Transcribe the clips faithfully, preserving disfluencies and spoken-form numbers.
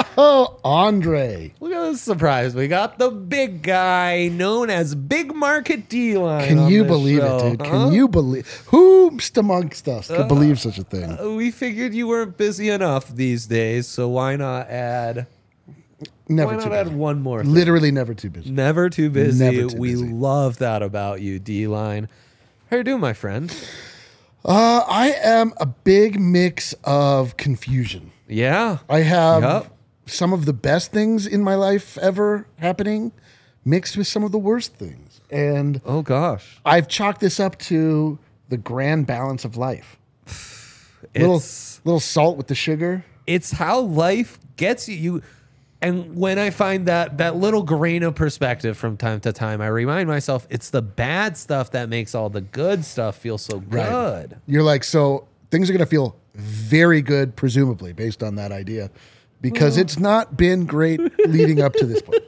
Oh, Andre. Look at this surprise. We got the big guy known as Big Market D-Line. Can on you this believe show, it, dude? huh? Can you believe? Who's amongst us could Uh, believe such a thing? Uh, we figured you weren't busy enough these days, so why not add... Never why too not add busy. one more thing? Literally never too busy. Never too busy. Never too we busy. love that about you, D-Line. How you doing, my friend? Uh, I am a big mix of confusion. Yeah. I have Yup. some of the best things in my life ever happening mixed with some of the worst things. And Oh, gosh. I've chalked this up to the grand balance of life. Little, It's, little salt with the sugar. it's how life gets you. you. And when I find that that little grain of perspective from time to time, I remind myself it's the bad stuff that makes all the good stuff feel so good. You're like, so things are going to feel very good, presumably, based on that idea, because it's not been great leading up to this point.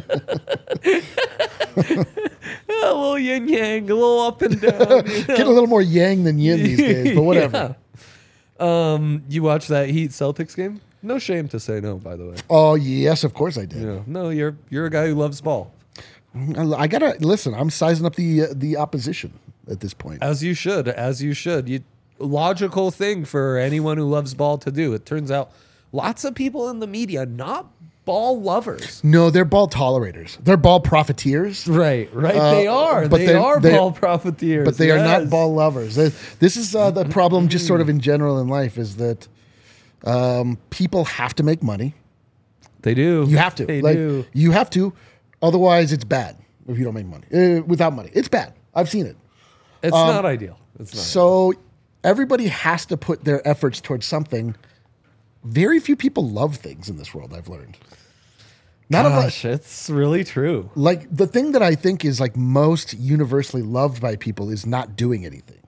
A little yin yang, a little up and down. you know? Get a little more yang than yin these days, but whatever. Yeah. Um, you watch that Heat Celtics game? No shame to say no, by the way. Oh, yes, of course I did. Yeah. No, you're you're a guy who loves ball. I, I gotta listen. I'm sizing up the uh, the opposition at this point. As you should, as you should. You logical thing for anyone who loves ball to do. It turns out lots of people in the media not ball lovers. No, they're ball tolerators. They're ball profiteers. Right, right. Uh, they are. but They they're- are they- ball profiteers. But they are not yes. ball lovers. They- This is uh, the problem, just sort of in general in life, is that um, people have to make money. They do. You have to. They like, do. You have to. Otherwise, it's bad if you don't make money. Uh, without money, it's bad. I've seen it. It's not ideal. It's not. So everybody has to put their efforts towards something. Very few people love things in this world, I've learned. Not of like, Gosh, it's really true. like the thing that I think is like most universally loved by people is not doing anything.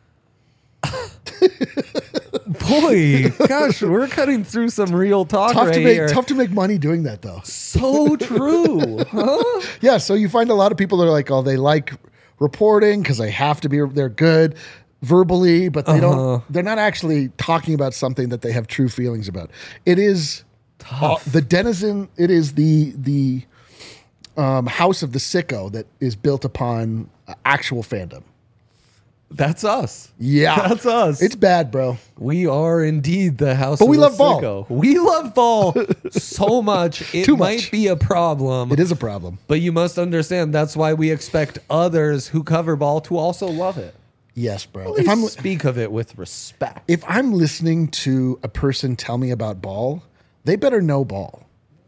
Boy, gosh, we're cutting through some real talk Tough right to make here. tough to make money doing that though. So true, huh? Yeah, so you find a lot of people that are like, oh, they like reporting because they have to be, they're good verbally, but they Uh-huh. don't, they're not actually talking about something that they have true feelings about. It is uh, the denizen, it is the, the um, house of the sicko that is built upon uh, actual fandom. That's us. Yeah. That's us. It's bad, bro. We are indeed the house. But of we the love ball. sicko. We love ball so much it Too might much. be a problem. It is a problem. But you must understand that's why we expect others who cover ball to also love it. Yes, bro. If If I'm, speak of it with respect. if I'm listening to a person tell me about ball, they better know ball.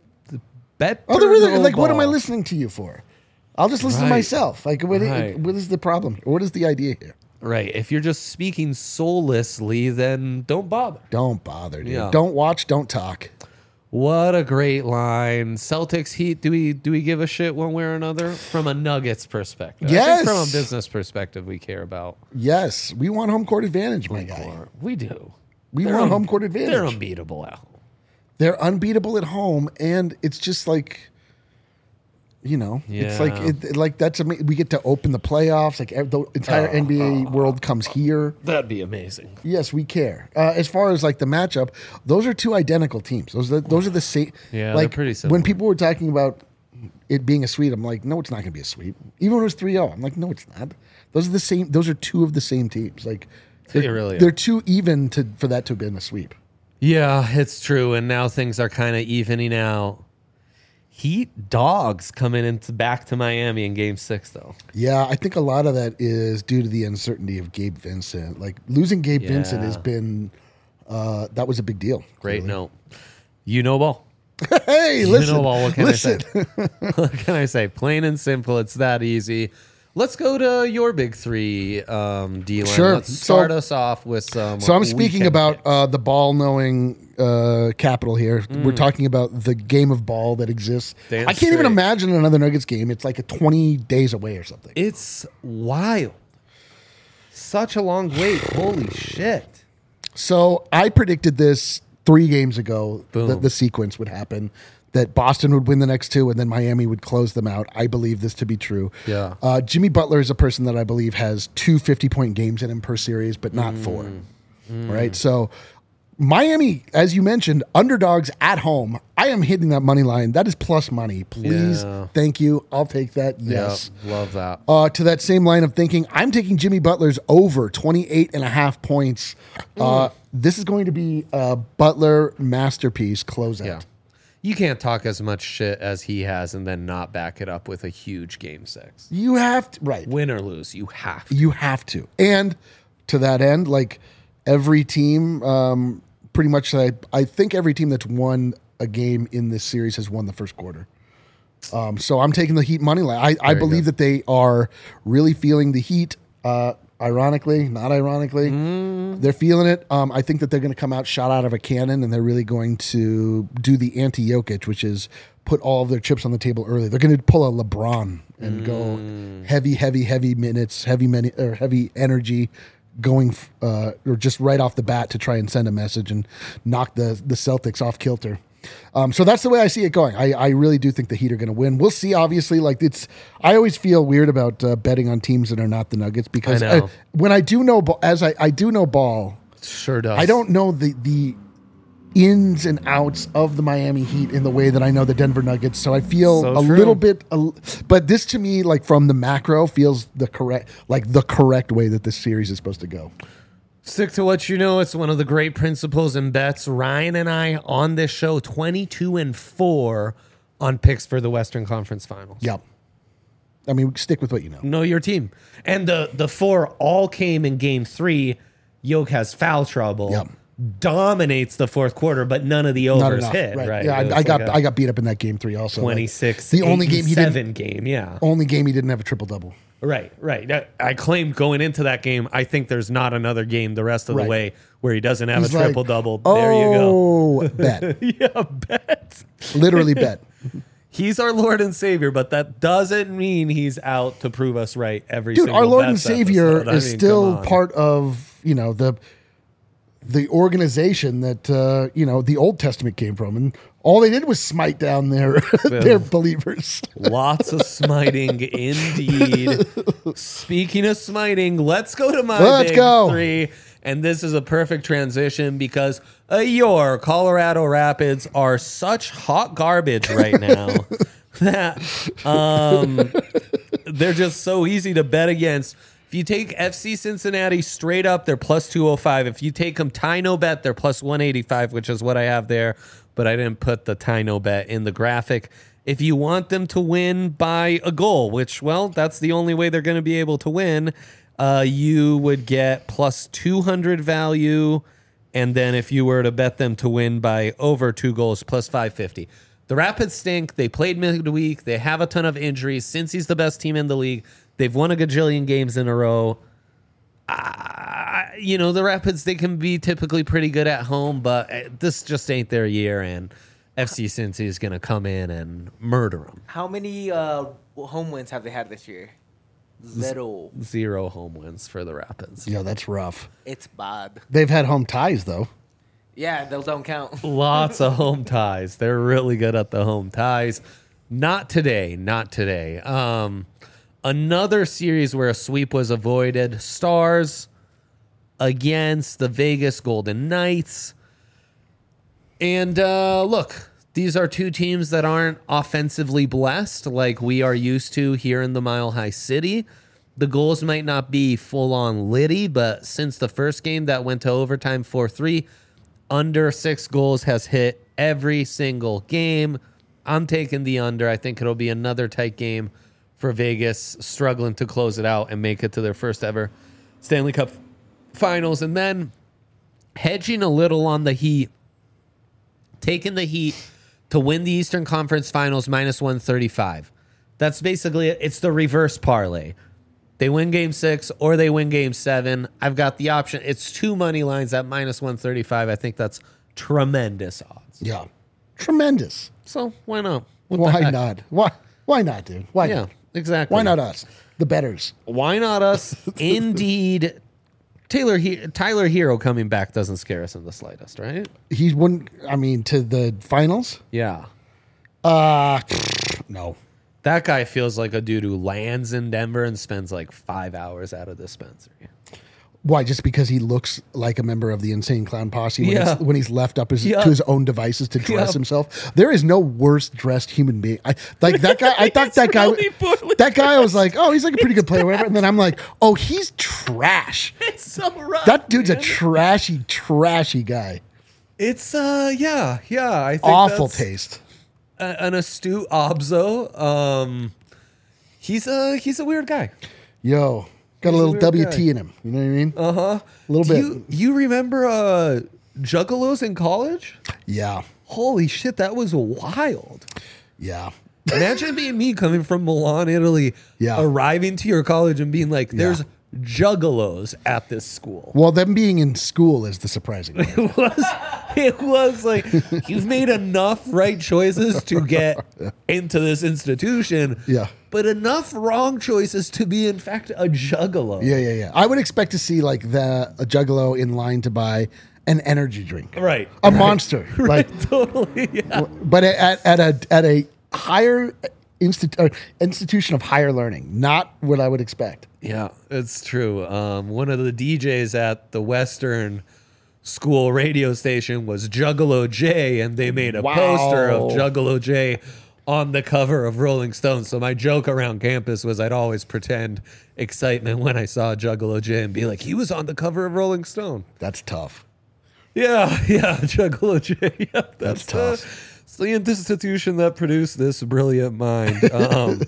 Bet. Oh, they're really, like, what am I listening to you for? I'll just listen Right. to myself. Like, what, Right. what is the problem? What is the idea here? Right. If you're just speaking soullessly, then don't bother. Don't bother, dude. Yeah. Don't watch, don't talk. What a great line. Celtics Heat, do we do we give a shit one way or another? From a Nuggets perspective. I Yes. think from a business perspective we care about. Yes, we want home court advantage, my guy. We do. We They're want un- home court advantage. They're unbeatable at home. They're unbeatable at home, and it's just like, you know, it's like Yeah. it, it- like that's ama- we get to open the playoffs. Like ev- the entire Oh, N B A world comes here. That'd be amazing. Yes, we care. Uh, as far as like the matchup, those are two identical teams. Those are, those are the same. Yeah, they're like pretty similar. when people were talking about it being a sweep, I'm like, no, it's not going to be a sweep. Even when it was three oh, I'm like, no, it's not. Those are the same. Those are two of the same teams. Like They they're, really are. they're too even to for that to have been a sweep. Yeah, it's true. And now things are kind of evening out. Heat dogs coming into back to Miami in game six, though. Yeah, I think a lot of that is due to the uncertainty of Gabe Vincent. Like losing Gabe Vincent Yeah. has been uh, that was a big deal. Great clearly. note. You know ball. Hey, You listen, know ball. What can listen. I say? What can I say? Plain and simple. It's that easy. Let's go to your big three, um, D-line. Sure. Let's So- start us off with some. So I'm speaking weekend about picks. uh, the ball knowing uh, capital here. We're talking about the game of ball that exists. Damn I can't even straight. imagine another Nuggets game. It's like a twenty days away or something. It's wild. Such a long wait. Holy shit. So I predicted this three games ago Boom. that the sequence would happen, that Boston would win the next two and then Miami would close them out. I believe this to be true. Yeah. Uh, Jimmy Butler is a person that I believe has two fifty-point games in him per series, but not four. Right? So Miami, as you mentioned, underdogs at home. I am hitting that money line. That is plus money. Please, Yeah. thank you. I'll take that. Yes. Yep, love that. Uh, to that same line of thinking, I'm taking Jimmy Butler's over twenty-eight and a half points. Uh, this is going to be a Butler masterpiece closeout. Yeah. You can't talk as much shit as he has and then not back it up with a huge game six. You have to, right. Win or lose, you have to. You have to. And to that end, like every team, um, pretty much, I, I think every team that's won a game in this series has won the first quarter. Um, so I'm taking the Heat money line. I, I believe good. that they are really feeling the heat. Uh, ironically, not ironically, Mm. they're feeling it. Um, I think that they're going to come out shot out of a cannon, and they're really going to do the anti-Jokic, which is put all of their chips on the table early. They're going to pull a LeBron and Mm. go heavy, heavy, heavy minutes, heavy many, or heavy energy, going uh, or just right off the bat to try and send a message and knock the the Celtics off kilter. Um, so that's the way I see it going. I, I really do think the Heat are going to win. We'll see. Obviously, like it's. I always feel weird about uh, betting on teams that are not the Nuggets because I know. I, when I do know, ba- as I, I do know ball, Sure does. I don't know the the ins and outs of the Miami Heat in the way that I know the Denver Nuggets. So I feel So a true. little bit. A, but this to me, like from the macro, feels the correct, like the correct way that this series is supposed to go. Stick to what you know. It's one of the great principles and bets. Ryan and I on this show, twenty-two and four on picks for the Western Conference Finals. Yep. I mean, stick with what you know. Know your team. And the the four all came in game three. Yoke has foul trouble. Yep. Dominates the fourth quarter, but none of the Not overs enough. hit. Right. Yeah, It was I, I got like a I got beat up in that game three also. Like, twenty-six. the only eight, game he seven didn't. game. Yeah. Only game he didn't have a triple double. Right, right. I claimed going into that game, I think there's not another game the rest of the Right. way where he doesn't have He's a like, triple double. There you go. Oh, bet. Yeah, bet. Literally bet. He's our Lord and Savior, but that doesn't mean he's out to prove us right every Dude, single our Lord and bets Savior episode. I is mean, still come on. part of, you know, the the organization that uh, you know, the Old Testament came from, and all they did was smite down their their believers. Lots of smiting indeed. Speaking of smiting, let's go to my Let's big go. three. And this is a perfect transition because uh, your Colorado Rapids are such hot garbage right now that um, they're just so easy to bet against. If you take F C Cincinnati straight up, they're plus two oh five. If you take them tie no bet, they're plus one eighty-five, which is what I have there. But I didn't put the tie no bet in the graphic. If you want them to win by a goal, which, well, that's the only way they're going to be able to win, uh, you would get plus two hundred value. And then if you were to bet them to win by over two goals, plus five fifty. The Rapids stink. They played midweek. They have a ton of injuries. Since he's the best team in the league, they've won a gajillion games in a row. Uh, you know, the Rapids, they can be typically pretty good at home, but this just ain't their year, and F C Cincy is going to come in and murder them. How many uh, home wins have they had this year? Zero. Zero home wins for the Rapids. Yeah, that's rough. It's bad. They've had home ties though. Yeah, those don't count. Lots of home ties. They're really good at the home ties. Not today. Not today. Um, another series where a sweep was avoided. Stars against the Vegas Golden Knights. And uh, look, these are two teams that aren't offensively blessed like we are used to here in the Mile High City. The goals might not be full-on litty, but since the first game that went to overtime four three, under six goals has hit every single game. I'm taking the under. I think it'll be another tight game for Vegas, struggling to close it out and make it to their first ever Stanley Cup Finals. And then hedging a little on the Heat, taking the Heat to win the Eastern Conference Finals minus one thirty-five. That's basically it. It's the reverse parlay. They win game six or they win game seven. I've got the option. It's two money lines at minus one thirty-five. I think that's tremendous odds. Yeah, tremendous. So why not? What the Why heck? not? Why? Why not, dude? Why? Yeah, not? exactly. Why not us, the betters? Why not us? Indeed. Taylor he- Tyler Hero coming back doesn't scare us in the slightest, right? He wouldn't. I mean, to the finals. Yeah. Uh no. That guy feels like a dude who lands in Denver and spends like five hours at a dispensary. Why? Just because he looks like a member of the Insane Clown Posse when, Yeah. it's, when he's left up his, Yeah. to his own devices to dress Yeah. himself. There is no worse dressed human being. I, like that guy. I thought that guy. really poorly That guy. I was like, oh, he's like a pretty good player, whatever. And then I'm like, oh, he's trash. It's so rough. That dude's a man. trashy, trashy guy. It's uh yeah yeah. I think Awful that's taste. a- an astute obzo. Um, he's a he's a weird guy. Yo, got a He's a little weird W guy. T in him. You know what I mean? Uh huh. A little Do bit. you you remember uh Juggalos in college? Yeah, Holy shit, that was wild. yeah. Imagine being me coming from Milan, Italy, Yeah. arriving to your college and being like, "There's Yeah. juggalos at this school." Well, them being in school is the surprising part. It was, it was like you've made enough right choices to get into this institution, Yeah. but enough wrong choices to be in fact a juggalo. Yeah, yeah, yeah. I would expect to see like the a juggalo in line to buy an energy drink, Right. a monster, like. Totally. Yeah. But at, at a at a higher institu- uh, institution of higher learning, not what I would expect. Yeah, it's true. Um, one of the D Js at the Western school radio station was Juggalo J, and they made a Wow. poster of Juggalo J on the cover of Rolling Stone. So my joke around campus was I'd always pretend excitement when I saw Juggalo J and be like, he was on the cover of Rolling Stone. That's tough. Yeah, yeah, Juggalo J. Yeah, that's, That's tough. Uh, it's the institution that produced this brilliant mind. Um,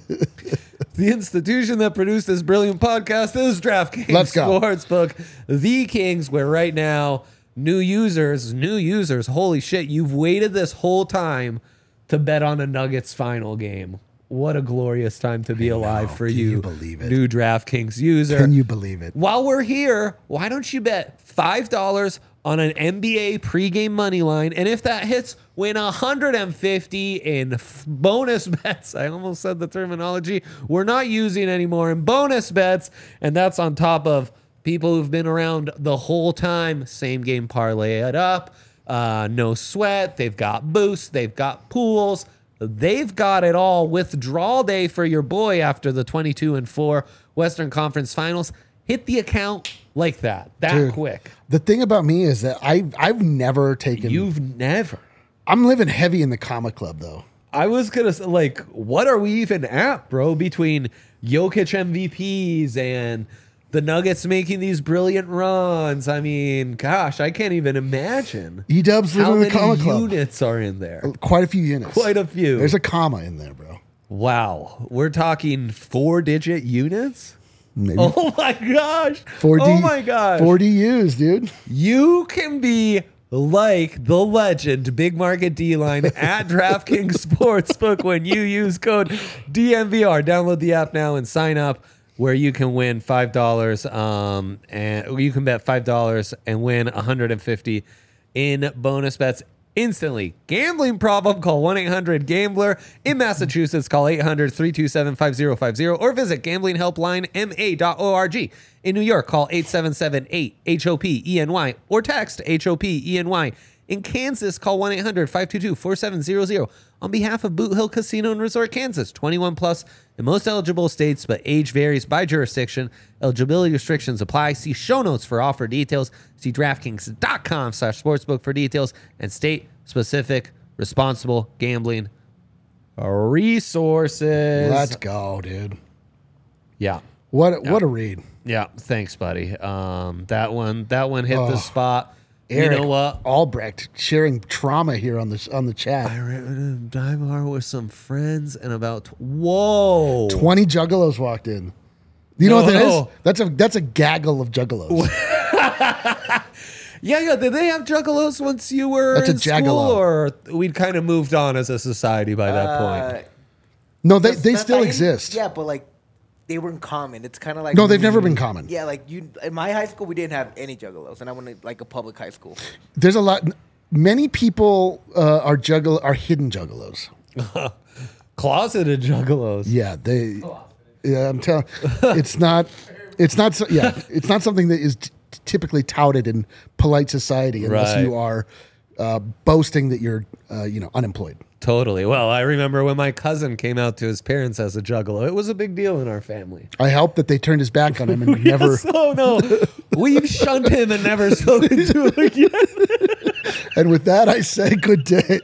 the institution that produced this brilliant podcast is DraftKings Let's go. Sportsbook, the Kings, where right now, new users, new users, holy shit, you've waited this whole time to bet on a Nuggets final game. What a glorious time to be alive for Can you, you believe it? new DraftKings user. Can you believe it? While we're here, why don't you bet five dollars on an N B A pregame money line? And if that hits, win one hundred fifty in f- bonus bets. I almost said the terminology we're not using anymore in bonus bets. And that's on top of people who've been around the whole time. Same game parlay it up. Uh, no sweat. They've got boosts. They've got pools. They've got it all. Withdrawal day for your boy after the twenty-two and four Western Conference Finals. Hit the account like that, that Dude, quick. The thing about me is that I I've never taken. You've never. I'm living heavy in the comic club though. I was gonna say, like, what are we even at, bro? Between Jokic M V Ps and the Nuggets making these brilliant runs. I mean, gosh, I can't even imagine E Dubs how living in the many comic club. units are in there. Quite a few units. Quite a few. There's a comma in there, bro. Wow, we're talking four-digit units. Maybe Oh my gosh! four D. Oh my gosh! four D Us, dude. You can be like the legend, Big Market D-Line at DraftKings Sportsbook when you use code D M V R. Download the app now and sign up where you can win five dollars um, and you can bet five dollars and win one hundred fifty in bonus bets instantly. Gambling problem? Call one eight hundred gambler. In Massachusetts, call eight hundred, three two seven, five zero five zero or visit gambling helpline m a dot org. In New York, call eight seven seven, eight, H O P E N Y or text H O P E N Y. In Kansas, call one eight hundred, five two two, four seven zero zero. On behalf of Boot Hill Casino and Resort, Kansas, twenty-one plus in most eligible states, but age varies by jurisdiction. Eligibility restrictions apply. See show notes for offer details. See DraftKings.com slash sportsbook for details and state-specific responsible gambling resources. Let's go, dude. Yeah. What what a read. Yeah. Thanks, buddy. Um, that one, that one hit the Oh. spot. Eric You know what? Albrecht sharing trauma here on the on the chat. I ran a dive bar with some friends and about tw- whoa. Twenty juggalos walked in. You know No, what that is? no. That's a that's a gaggle of juggalos. Yeah, yeah. Did they have juggalos once you were That's a in school, jaggalo. or we'd kind of moved on as a society by that Uh, point? No, they That's- they that's still not- exist. Yeah, but like they weren't common. It's kind of like No, they've never been common. Yeah, like you in my high school, we didn't have any juggalos, and I went to like a public high school. There's a lot. Many people uh, are juggle are hidden juggalos. Closeted juggalos. Yeah, they. Yeah, I'm telling. It's not. It's not. so- Yeah, it's not something that is t- typically touted in polite society unless Right. you are uh, boasting that you're, uh, you know, unemployed. Totally. Well, I remember when my cousin came out to his parents as a juggalo. It was a big deal in our family. I helped that they turned his back on him and never. Yes, oh no, we've shunned him and never spoken to him again. And with that, I say good day.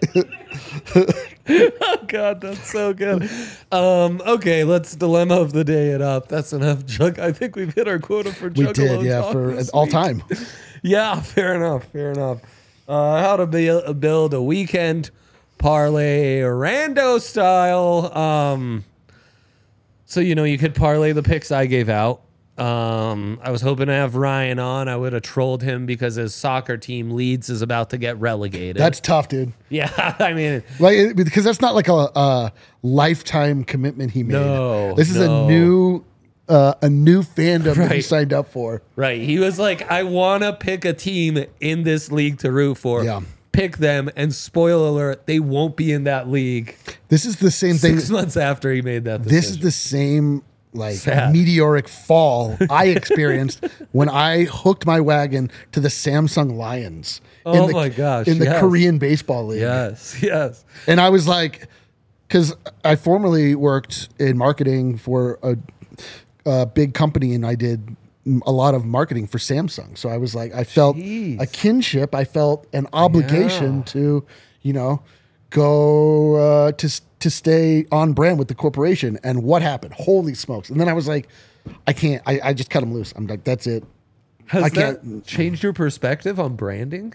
Oh God, that's so good. Um, okay, let's dilemma of the day it up. That's enough jug. I think we've hit our quota for juggalo We did, yeah, talk for this all week. time. Yeah, fair enough. Fair enough. Uh, how to be, build a weekend parlay rando style. Um, so you know you could parlay the picks I gave out. Um, I was hoping to have Ryan on. I would have trolled him because his soccer team Leeds is about to get relegated. That's tough, dude. yeah. I mean, Like it- because that's not like a, a lifetime commitment he made. No, this is no. a new uh, a new fandom that he Right. signed up for. right. He was like, I want to pick a team in this league to root for. Yeah. Pick them, and spoiler alert, they won't be in that league This is the same thing. six months after he made that decision. This is the same like Sad. meteoric fall I experienced when I hooked my wagon to the Samsung Lions. Oh the, my gosh, In the yes. Korean baseball league. Yes, yes. And I was like, because I formerly worked in marketing for a, a big company, and I did a lot of marketing for Samsung. So I was like, I felt Jeez. a kinship. I felt an obligation Yeah. to, you know, go uh, to to stay on brand with the corporation. And what happened? Holy smokes! And then I was like, I can't. I, I just cut them loose. I'm like, that's it. Has I that can't- changed your perspective on branding?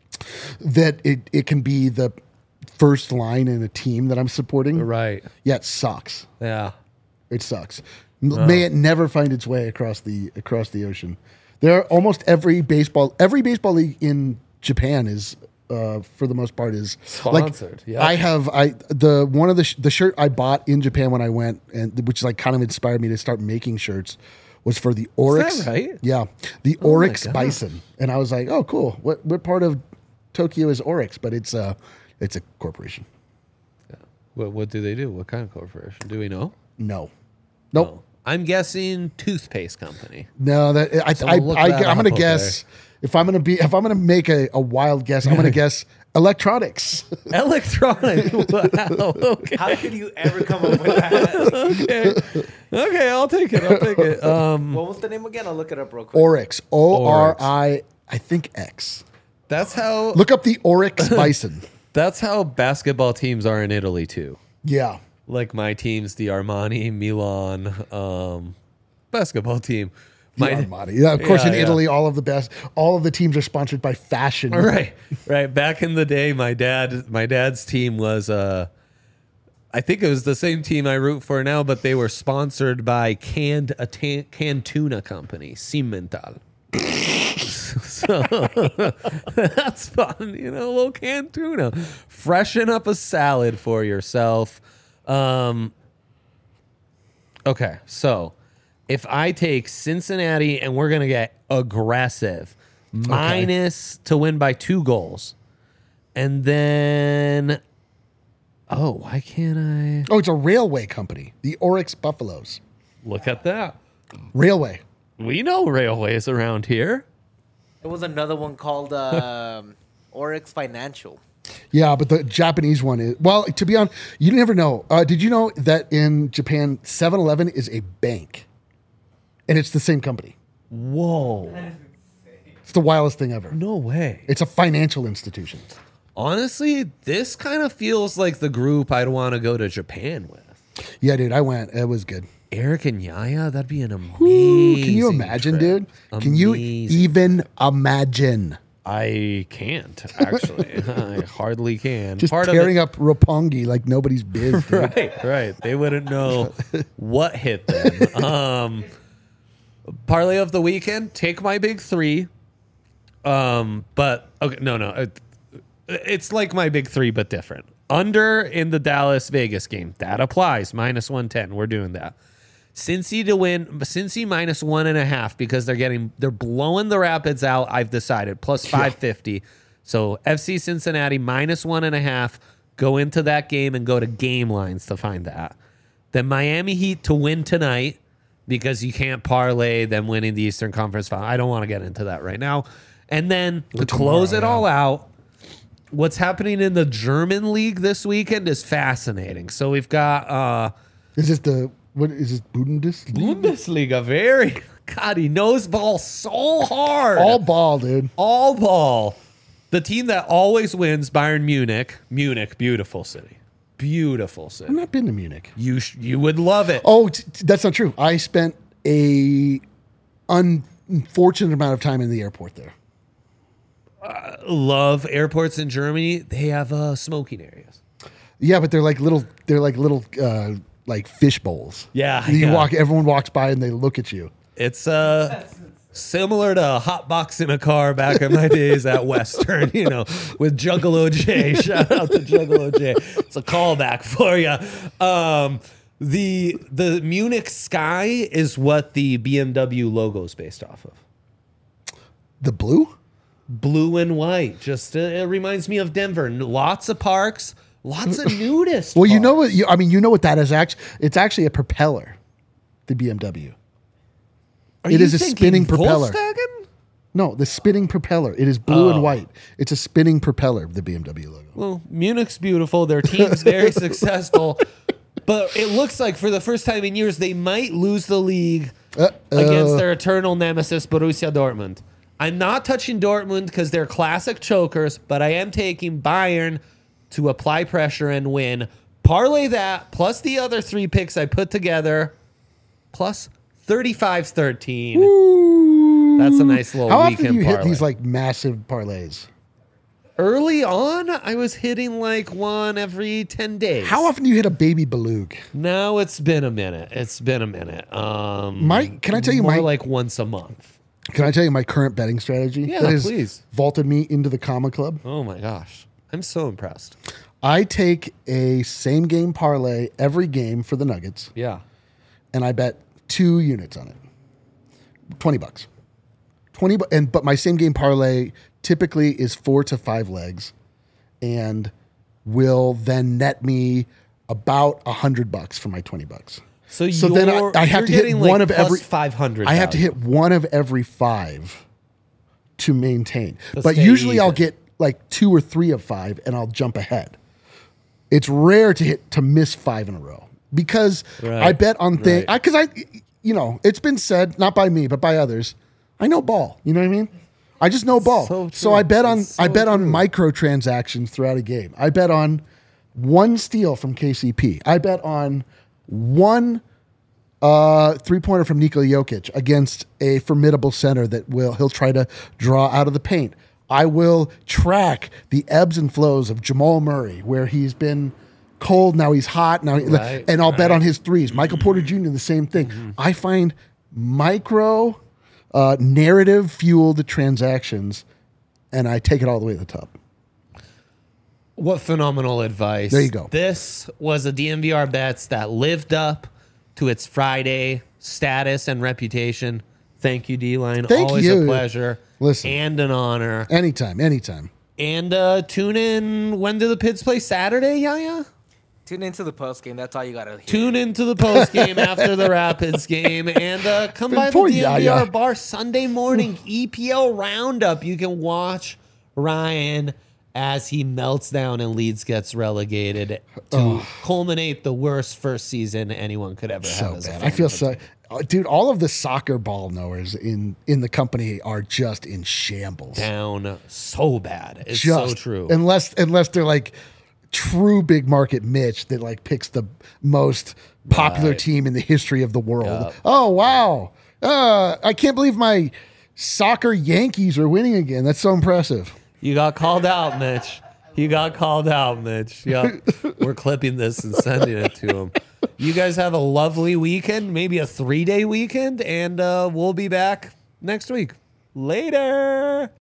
That it it can be the first line in a team that I'm supporting. Right. Yeah, it sucks. Yeah. It sucks. M May it never find its way across the across the ocean. There are almost every baseball every baseball league in Japan is uh, for the most part is Sponsored, Like, yeah. I have I the one of the sh- the shirt I bought in Japan when I went, and which like kind of inspired me to start making shirts, was for the Oryx. right? Yeah, the Oh my Oryx gosh. Bison, and I was like, oh cool. What what part of Tokyo is Oryx? But it's a it's a corporation. What What do they do? What kind of corporation? Do we know? No, nope. Oh. I'm guessing toothpaste company. No, that I, I, Someone look I, that I'm up, gonna okay. guess if I'm gonna be if I'm gonna make a, a wild guess, I'm gonna guess electronics. Electronic. Wow. Okay. How could you ever come up with that? Okay. Okay. I'll take it. I'll take it. Um, What was the name again? I'll look it up real quick. Oryx, O R I, I think X. that's how. Look up the Oryx Bison. That's how basketball teams are in Italy too. Yeah, Like my teams, the Armani, Milan, um, basketball team. the My, Armani. Yeah, of course Yeah, in yeah. Italy, all of the best. All of the teams are sponsored by fashion. right, right. Back in the day, my dad, my dad's team was, uh, I think it was the same team I root for now, but they were sponsored by canned a ta- canned tuna company, Simmental. So that's fun, you know, a little canned tuna. Freshen up a salad for yourself. Um, okay, so if I take Cincinnati and we're gonna get aggressive, minus to win by two goals, and then oh, why can't I Oh, it's a railway company. The Oryx Buffaloes. look at that? Railway. We know railways around here. There was another one called um, Oryx Financial. Yeah, but the Japanese one is well. To be honest, you never know. Uh, did you know that in Japan, seven eleven is a bank, and it's the same company? Whoa. It's the wildest thing ever. No way. It's a financial institution. Honestly, this kind of feels like the group I'd want to go to Japan with. Yeah, dude, I went. It was good. Eric and Yaya, that'd be an amazing. Ooh, can you imagine, trip. dude? Can you Amazing. even imagine? I can't actually. I hardly can. Just Part tearing of up Roppongi like nobody's biz. it, Dude. right, right. They wouldn't know what hit them. Um, parlay of the weekend. Take my big three. Um, but okay, no, no. It, it's like my big three, but different. Under in the Dallas Vegas game. That applies. Minus one ten. We're doing that. Cincy to win. Cincy minus one and a half because they're getting they're blowing the Rapids out. I've decided plus five fifty. So F C Cincinnati minus one and a half. Go into that game and go to game lines to find that. Then Miami Heat to win tonight because you can't parlay them winning the Eastern Conference Final. I don't want to get into that right now. And then to close it tomorrow, all out, what's happening in the German league this weekend is fascinating. So we've got uh, Is this the what is this Bundesliga? Bundesliga. Very God, he knows ball so hard. All ball, dude. All ball. The team that always wins, Bayern Munich. Munich, beautiful city. Beautiful I've city. not been to Munich. You sh- you would love it. Oh, t- t- that's not true. I spent a unfortunate amount of time in the airport there. Love airports in Germany. They have uh, smoking areas. Yeah, but they're like little. They're like little, uh, like fish bowls. Yeah, You yeah. walk. Everyone walks by and they look at you. It's uh similar to hot box in a car back in my days at Western, you know, with Juggalo J. Shout out to Juggalo J. It's a callback for you. Um, the the Munich sky is what the B M W logo is based off of. The blue. Blue and white. Just uh, it reminds me of Denver. Lots of parks, lots of nudists. Well, you know parks. what? You, I mean, you know what that is. Actually, it's actually a propeller. The B M W. Are it you is a thinking spinning propeller. Volkswagen? No, the spinning propeller. It is blue Oh. and white. It's a spinning propeller. The B M W logo. Well, Munich's beautiful. Their team's very successful. But it looks like for the first time in years, they might lose the league Uh-oh. against their eternal nemesis, Borussia Dortmund. I'm not touching Dortmund because they're classic chokers, but I am taking Bayern to apply pressure and win. Parlay that, plus the other three picks I put together, plus thirty-five thirteen. That's a nice little How often weekend do you hit parlay. these like massive parlays? Early on, I was hitting like one every ten days. How often do you hit a baby beluga? No, it's been a minute. It's been a minute. Um, My- can I tell you more my- like once a month? Can I tell you my current betting strategy? Yeah, that has please. vaulted me into the comma club. Oh my gosh, I'm so impressed. I take a same game parlay every game for the Nuggets, Yeah, and I bet two units on it. Twenty bucks. Twenty, bu- and but my same game parlay typically is four to five legs, and will then net me about a hundred bucks for my twenty bucks. so, So you're, then I, I have you're to hit getting, one like, of plus every five hundred. I have to hit one of every five to maintain. To but stay usually I'll even. get like two or three of five, and I'll jump ahead. It's rare to hit to miss five in a row because Right. I bet on things Right. because I, you know, it's been said not by me but by others. I know ball. You know what I mean? I just know ball. So So, true. I bet on It's I so bet on true. microtransactions throughout a game. I bet on one steal from K C P. I bet on one uh, three pointer from Nikola Jokic against a formidable center that will he'll try to draw out of the paint. I will track the ebbs and flows of Jamal Murray, where he's been cold, now he's hot, now he- Right, and I'll bet right. on his threes. Michael Porter Junior the same thing. Mm-hmm. I find micro uh, narrative fueled transactions, and I take it all the way to the top. What phenomenal advice. There you go. This was a D M V R Bets that lived up to its Friday status and reputation. Thank you, D-Line. Thank Always you. a pleasure. Listen. And an honor. Anytime, anytime. And uh, tune in. When do the Pids play? Saturday, Yaya? Tune into the post game. That's all you gotta hear. Tune into the post game after the Rapids game, and uh, come by the Poor D M V R Yaya. bar Sunday morning E P L roundup. You can watch Ryan as he melts down and Leeds gets relegated to culminate the worst first season anyone could ever So have. As a bad. fan I feel of a so, team. uh, dude. All of the soccer ball knowers in in the company are just in shambles. down so bad. It's Just so true. Unless unless they're like true big market Mitch that like picks the most popular Right. team in the history of the world. Yep. Oh wow! Uh, I can't believe my soccer Yankees are winning again. That's so impressive. You got called out, Mitch. You got called out, Mitch. Yep. We're clipping this and sending it to him. You guys have a lovely weekend, maybe a three day weekend, and uh, we'll be back next week. Later.